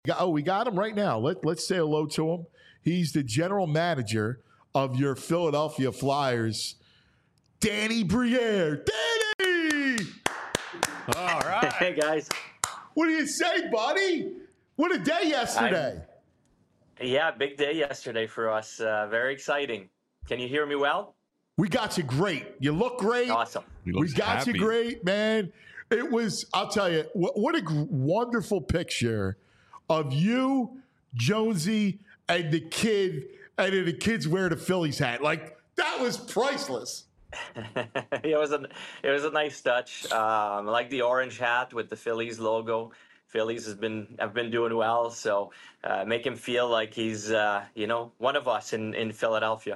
We got him right now. Let's say hello to him. He's the general manager of your Philadelphia Flyers, Danny Briere. Danny! All right. Hey, guys. What do you say, buddy? What a day yesterday. Yeah, big day yesterday for us. Very exciting. Can you hear me well? We got you great. You look great. Awesome. We got you great, man. It was, I'll tell you, what a wonderful picture of you, Jonesy, and the kid, and then the kid's wearing a Phillies hat. Like, that was priceless. It was a nice touch. I like the orange hat with the Phillies logo. Phillies have been doing well, so make him feel like he's one of us in Philadelphia.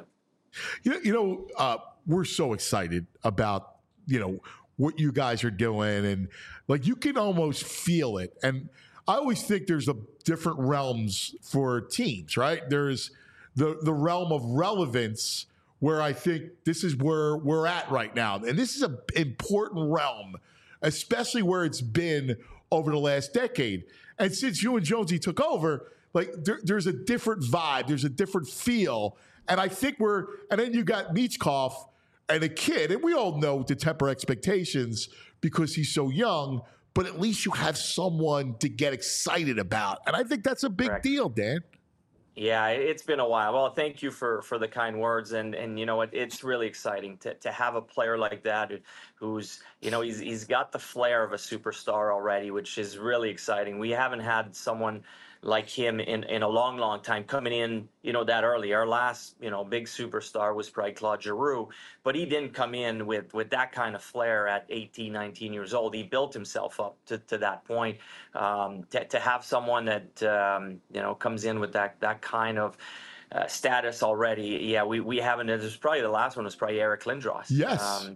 We're so excited about what you guys are doing, and like you can almost feel it. And I always think there's different realms for teams, right? There's the realm of relevance, where I think this is where we're at right now. And this is an important realm, especially where it's been over the last decade. And since you and Jonesy took over, like there's a different vibe, there's a different feel. And I think and then you got Michkov and a kid, and we all know to temper expectations because he's so young, but at least you have someone to get excited about. And I think that's a big deal, Dan. Yeah, it's been a while. Well, thank you for the kind words, and you know what, it's really exciting to have a player like that who's he's got the flair of a superstar already, which is really exciting. We haven't had someone like him in a long time coming in that early. Our last big superstar was probably Claude Giroux, but he didn't come in with that kind of flair at 18, 19 years old. He built himself up to that point. To have someone that comes in with that kind of status already, yeah, we haven't. There's probably the last one was probably Eric Lindros. Yes.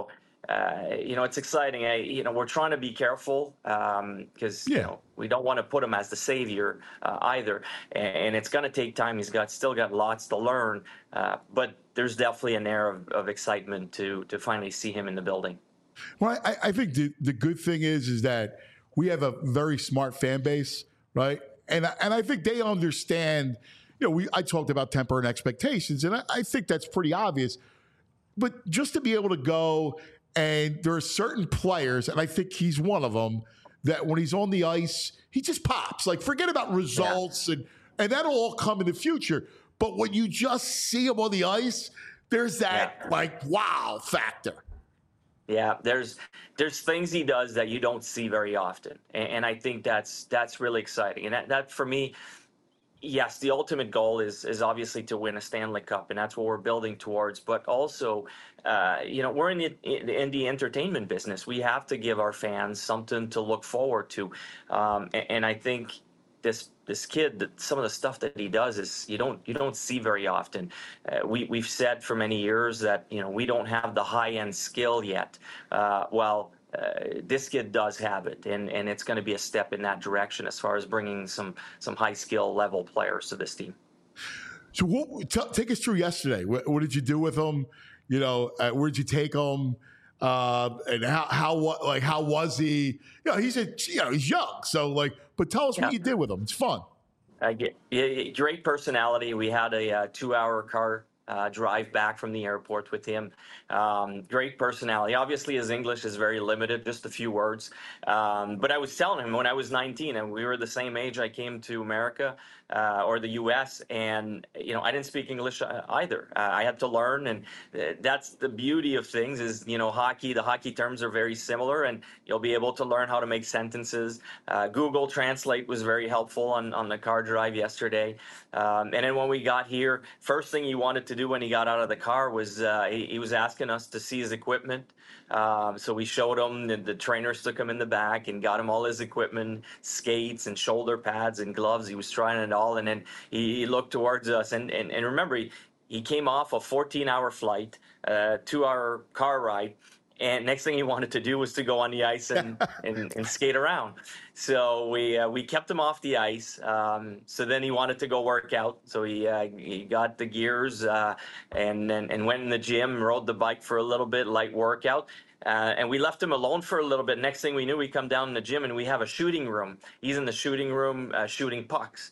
It's exciting. We're trying to be careful because we don't want to put him as the savior either, and it's going to take time. He's still got lots to learn, but there's definitely an air of excitement to finally see him in the building. Well, I think the good thing is that we have a very smart fan base, right? And I think they understand. I talked about temper and expectations, and I think that's pretty obvious. But just to be able to go, and there are certain players, and I think he's one of them, that when he's on the ice, he just pops. Like, forget about results, and that'll all come in the future. But when you just see him on the ice, there's that wow factor. Yeah, there's things he does that you don't see very often, and I think that's really exciting. And that for me, yes, the ultimate goal is obviously to win a Stanley Cup, and that's what we're building towards. But also, we're in the entertainment business. We have to give our fans something to look forward to, and I think this kid, some of the stuff that he does is you don't see very often. We've said for many years that we don't have the high end skill yet. This kid does have it, and it's going to be a step in that direction as far as bringing some high skill level players to this team. So take us through yesterday. What did you do with him? Where did you take him? And how was he? He's young, so but tell us what you did with him. It's fun. Great personality. We had a 2-hour car drive back from the airport with him. Great personality. Obviously, his English is very limited, just a few words. But I was telling him when I was 19, and we were the same age, I came to America or the U.S., and I didn't speak English either. I had to learn, and that's the beauty of things is hockey. The hockey terms are very similar, and you'll be able to learn how to make sentences. Google Translate was very helpful on the car drive yesterday. And then when we got here, first thing he wanted to do when he got out of the car was he was asking us to see his equipment. So we showed him, the trainers took him in the back and got him all his equipment, skates and shoulder pads and gloves. He was trying it all, and then he looked towards us. And remember, he came off a 14-hour flight, 2-hour car ride, and next thing he wanted to do was to go on the ice and skate around. So we kept him off the ice. So then he wanted to go work out. So he got the gears and went in the gym, rode the bike for a little bit, light workout. And we left him alone for a little bit. Next thing we knew, we come down in the gym and we have a shooting room. He's in the shooting room shooting pucks.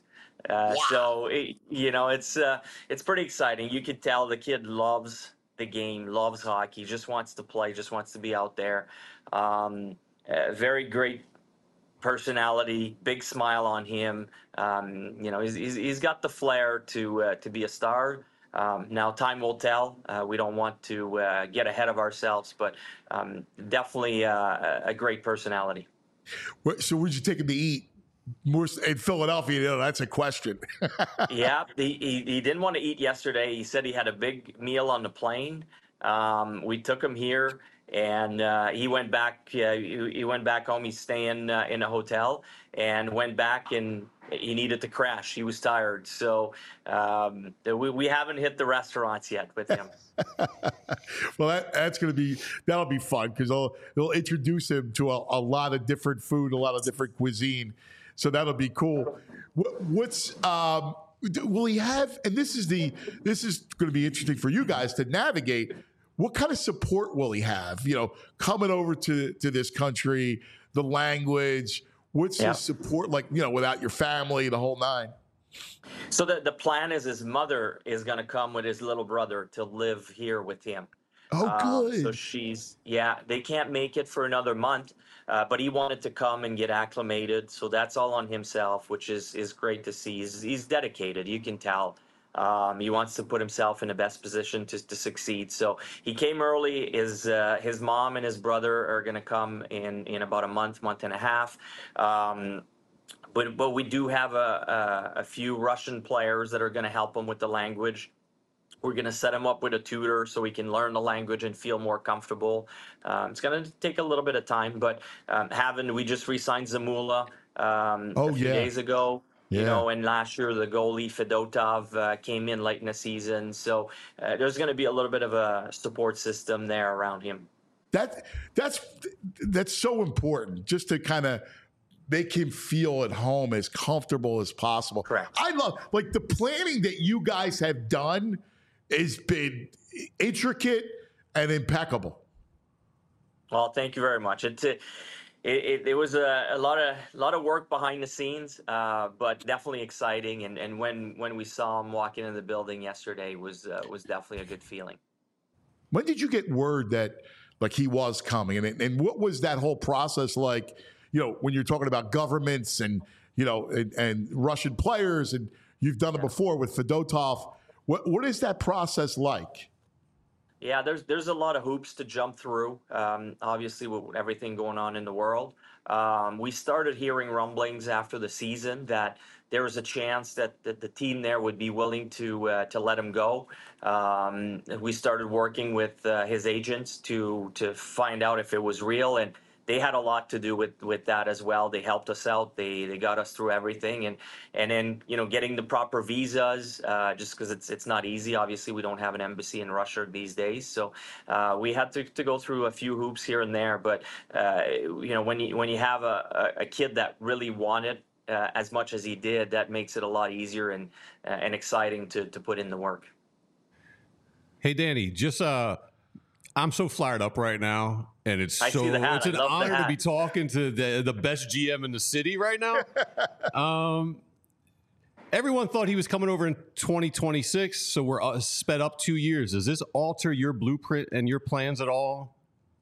It's pretty exciting. You could tell the kid loves the game, loves hockey, just wants to play, just wants to be out there. Very great personality, big smile on him. He's got the flair to be a star. Now time will tell. We don't want to get ahead of ourselves, but definitely a great personality. So where'd you take him to eat? More in Philadelphia, that's a question. Yeah, he didn't want to eat yesterday. He said he had a big meal on the plane. We took him here, and he went back. He went back home. He's staying in a hotel, and went back, and he needed to crash. He was tired, so we haven't hit the restaurants yet with him. Well, that'll be fun because they'll introduce him to a lot of different food, a lot of different cuisine. So that'll be cool. Will he have? And this is going to be interesting for you guys to navigate. What kind of support will he have? Coming over to this country, the language. What's his support like? Without your family, the whole nine. So the plan is his mother is going to come with his little brother to live here with him. Oh, good. So they can't make it for another month, but he wanted to come and get acclimated. So that's all on himself, which is great to see. He's dedicated. You can tell. He wants to put himself in the best position to succeed. So he came early. His mom and his brother are going to come in about a month and a half. But we do have a few Russian players that are going to help him with the language. We're going to set him up with a tutor so he can learn the language and feel more comfortable. It's going to take a little bit of time, but we just re-signed Zamula a few days ago. Yeah. And last year the goalie Fedotov came in late in the season. So there's going to be a little bit of a support system there around him. That's so important, just to kind of make him feel at home, as comfortable as possible. Correct. I love the planning that you guys have done has been intricate and impeccable. Well, thank you very much. It was a lot of work behind the scenes, but definitely exciting. And when we saw him walk into the building yesterday was definitely a good feeling. When did you get word that he was coming, and what was that whole process like? When you're talking about governments and and Russian players, and you've done it before with Fedotov. What is that process like? Yeah, there's a lot of hoops to jump through. Obviously, with everything going on in the world, we started hearing rumblings after the season that there was a chance that the team there would be willing to let him go. We started working with his agents to find out if it was real, and they had a lot to do with that as well. They helped us out. They got us through everything, and then getting the proper visas, just because it's not easy. Obviously, we don't have an embassy in Russia these days, so we had to go through a few hoops here and there. But when you have a kid that really wanted as much as he did, that makes it a lot easier and exciting to put in the work. Hey, Danny, just I'm so fired up right now, and it's an honor to be talking to the best GM in the city right now. Everyone thought he was coming over in 2026, so we're sped up 2 years. Does this alter your blueprint and your plans at all?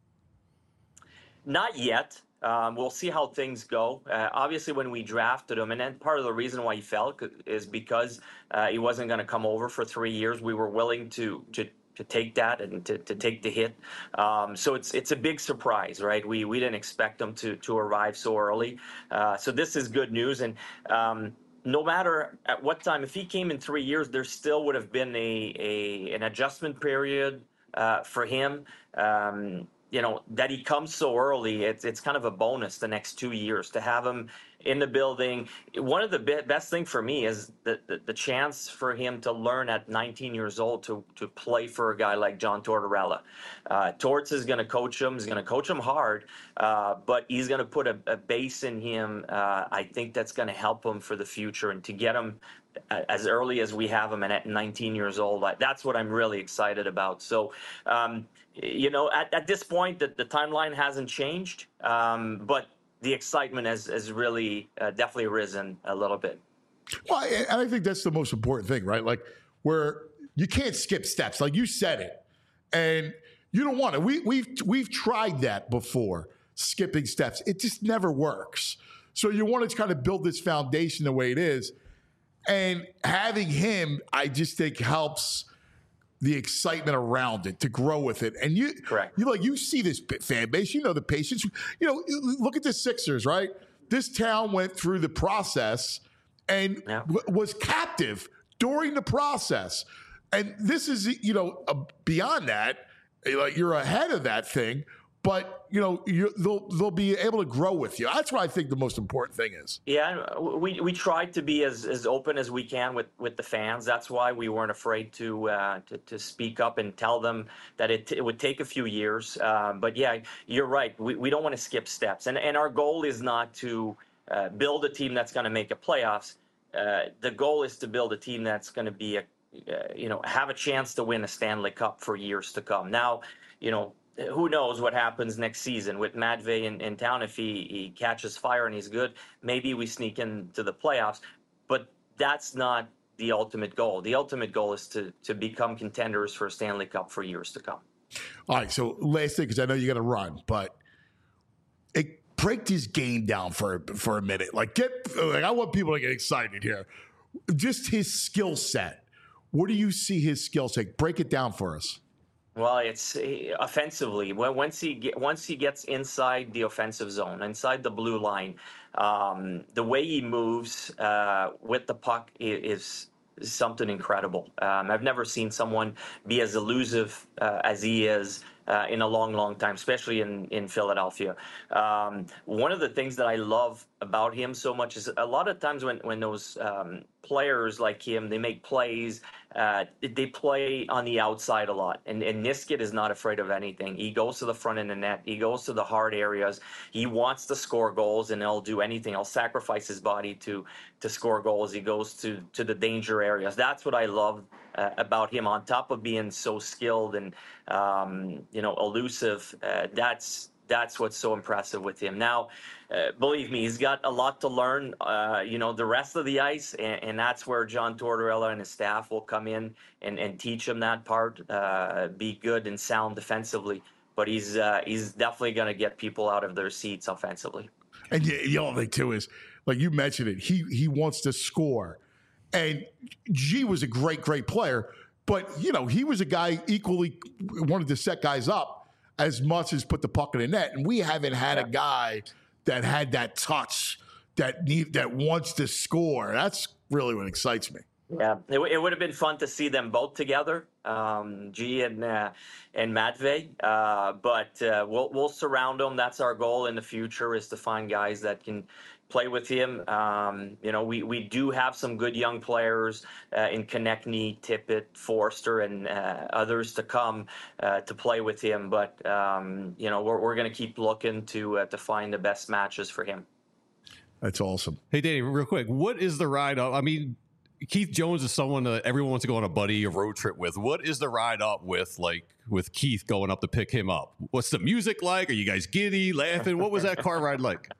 Not yet. We'll see how things go. Obviously, when we drafted him, and then part of the reason why he fell is because he wasn't going to come over for 3 years. We were willing to take that and to take the hit. So it's a big surprise, right? We didn't expect him to arrive so early. So this is good news. And no matter at what time, if he came in 3 years, there still would have been an adjustment period for him. That he comes so early, it's kind of a bonus the next 2 years to have him in the building. One of the best thing for me is the chance for him to learn at 19 years old to play for a guy like John Tortorella. Torts is going to coach him. He's going to coach him hard, but he's going to put a base in him. I think that's going to help him for the future, and to get him as early as we have him and at 19 years old, that's what I'm really excited about. So, at this point, the timeline hasn't changed, but the excitement has really definitely risen a little bit. Well, and I think that's the most important thing, right? Like, where you can't skip steps. Like you said it, and you don't want it. We've tried that before, skipping steps. It just never works. So you want to kind of build this foundation the way it is. And having him, I just think, helps the excitement around it to grow with it. And you see this fan base, the patience. Look at the Sixers, right? This town went through the process and was captive during the process. And this is, beyond that, like you're ahead of that thing. But, they'll be able to grow with you. That's what I think the most important thing is. Yeah, we tried to be as open as we can with the fans. That's why we weren't afraid to speak up and tell them that it would take a few years. But, yeah, you're right. We don't want to skip steps. And our goal is not to build a team that's going to make a playoffs. The goal is to build a team that's going to be, have a chance to win a Stanley Cup for years to come. Now, who knows what happens next season with Matvey in town. If he catches fire and he's good, maybe we sneak into the playoffs. But that's not the ultimate goal. The ultimate goal is to become contenders for a Stanley Cup for years to come. All right, so last thing, because I know you got to run, but break this game down for a minute. I want people to get excited here. Just his skill set. What do you see his skill set? Break it down for us. Well, it's offensively. Once he gets inside the offensive zone, inside the blue line, the way he moves with the puck is something incredible. I've never seen someone be as elusive as he is in a long, long time, especially in Philadelphia. One of the things that I love about him so much is a lot of times when those players like him, they make plays, they play on the outside a lot. And Niskanen is not afraid of anything. He goes to the front of the net. He goes to the hard areas. He wants to score goals, and he'll do anything. He'll sacrifice his body to score goals. He goes to the danger areas. That's what I love about him. On top of being so skilled and elusive, that's what's so impressive with him. Now, believe me, he's got a lot to learn, the rest of the ice, and that's where John Tortorella and his staff will come in and teach him that part, be good and sound defensively. But he's definitely going to get people out of their seats offensively. And the other thing, too, is, like you mentioned it, he wants to score. And G was a great, great player, but, he was a guy equally wanted to set guys up as much as put the puck in the net. And we haven't had a guy that had that touch that wants to score. That's really what excites me. Yeah, it would have been fun to see them both together, G and Matvey. But we'll surround them. That's our goal in the future, is to find guys that can play with him. We do have some good young players in Konechny, Tippett, Forster, and others to come to play with him. But we're going to keep looking to find the best matches for him. That's awesome. Hey, Danny, real quick, what is the ride up? I mean, Keith Jones is someone that everyone wants to go on a buddy or road trip with. What is the ride up with Keith going up to pick him up? What's the music like? Are you guys giddy, laughing? What was that car ride like?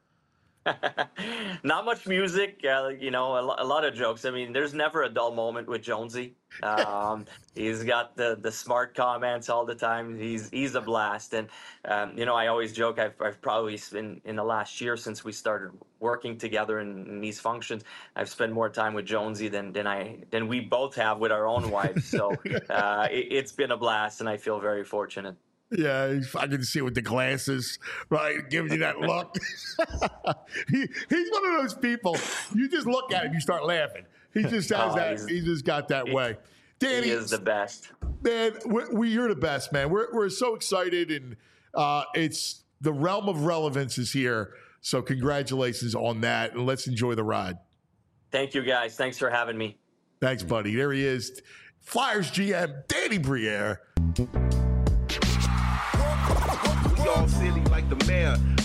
Not much music, a lot of jokes. I mean, there's never a dull moment with Jonesy. He's got the smart comments all the time. He's a blast. And, I always joke, I've probably spent, in the last year since we started working together in these functions, I've spent more time with Jonesy than we both have with our own wives. So it's been a blast, and I feel very fortunate. Yeah, I can see with the glasses, right? Giving you that look. He's one of those people. You just look at him, you start laughing. He just has that. He just got that way. Danny, he is the best. Man, you're the best, man. We're so excited, and it's the realm of relevance is here So congratulations on that, and let's enjoy the ride. Thank you, guys. Thanks for having me. Thanks, buddy. There he is, Flyers GM Danny Briere. We all silly like the mayor.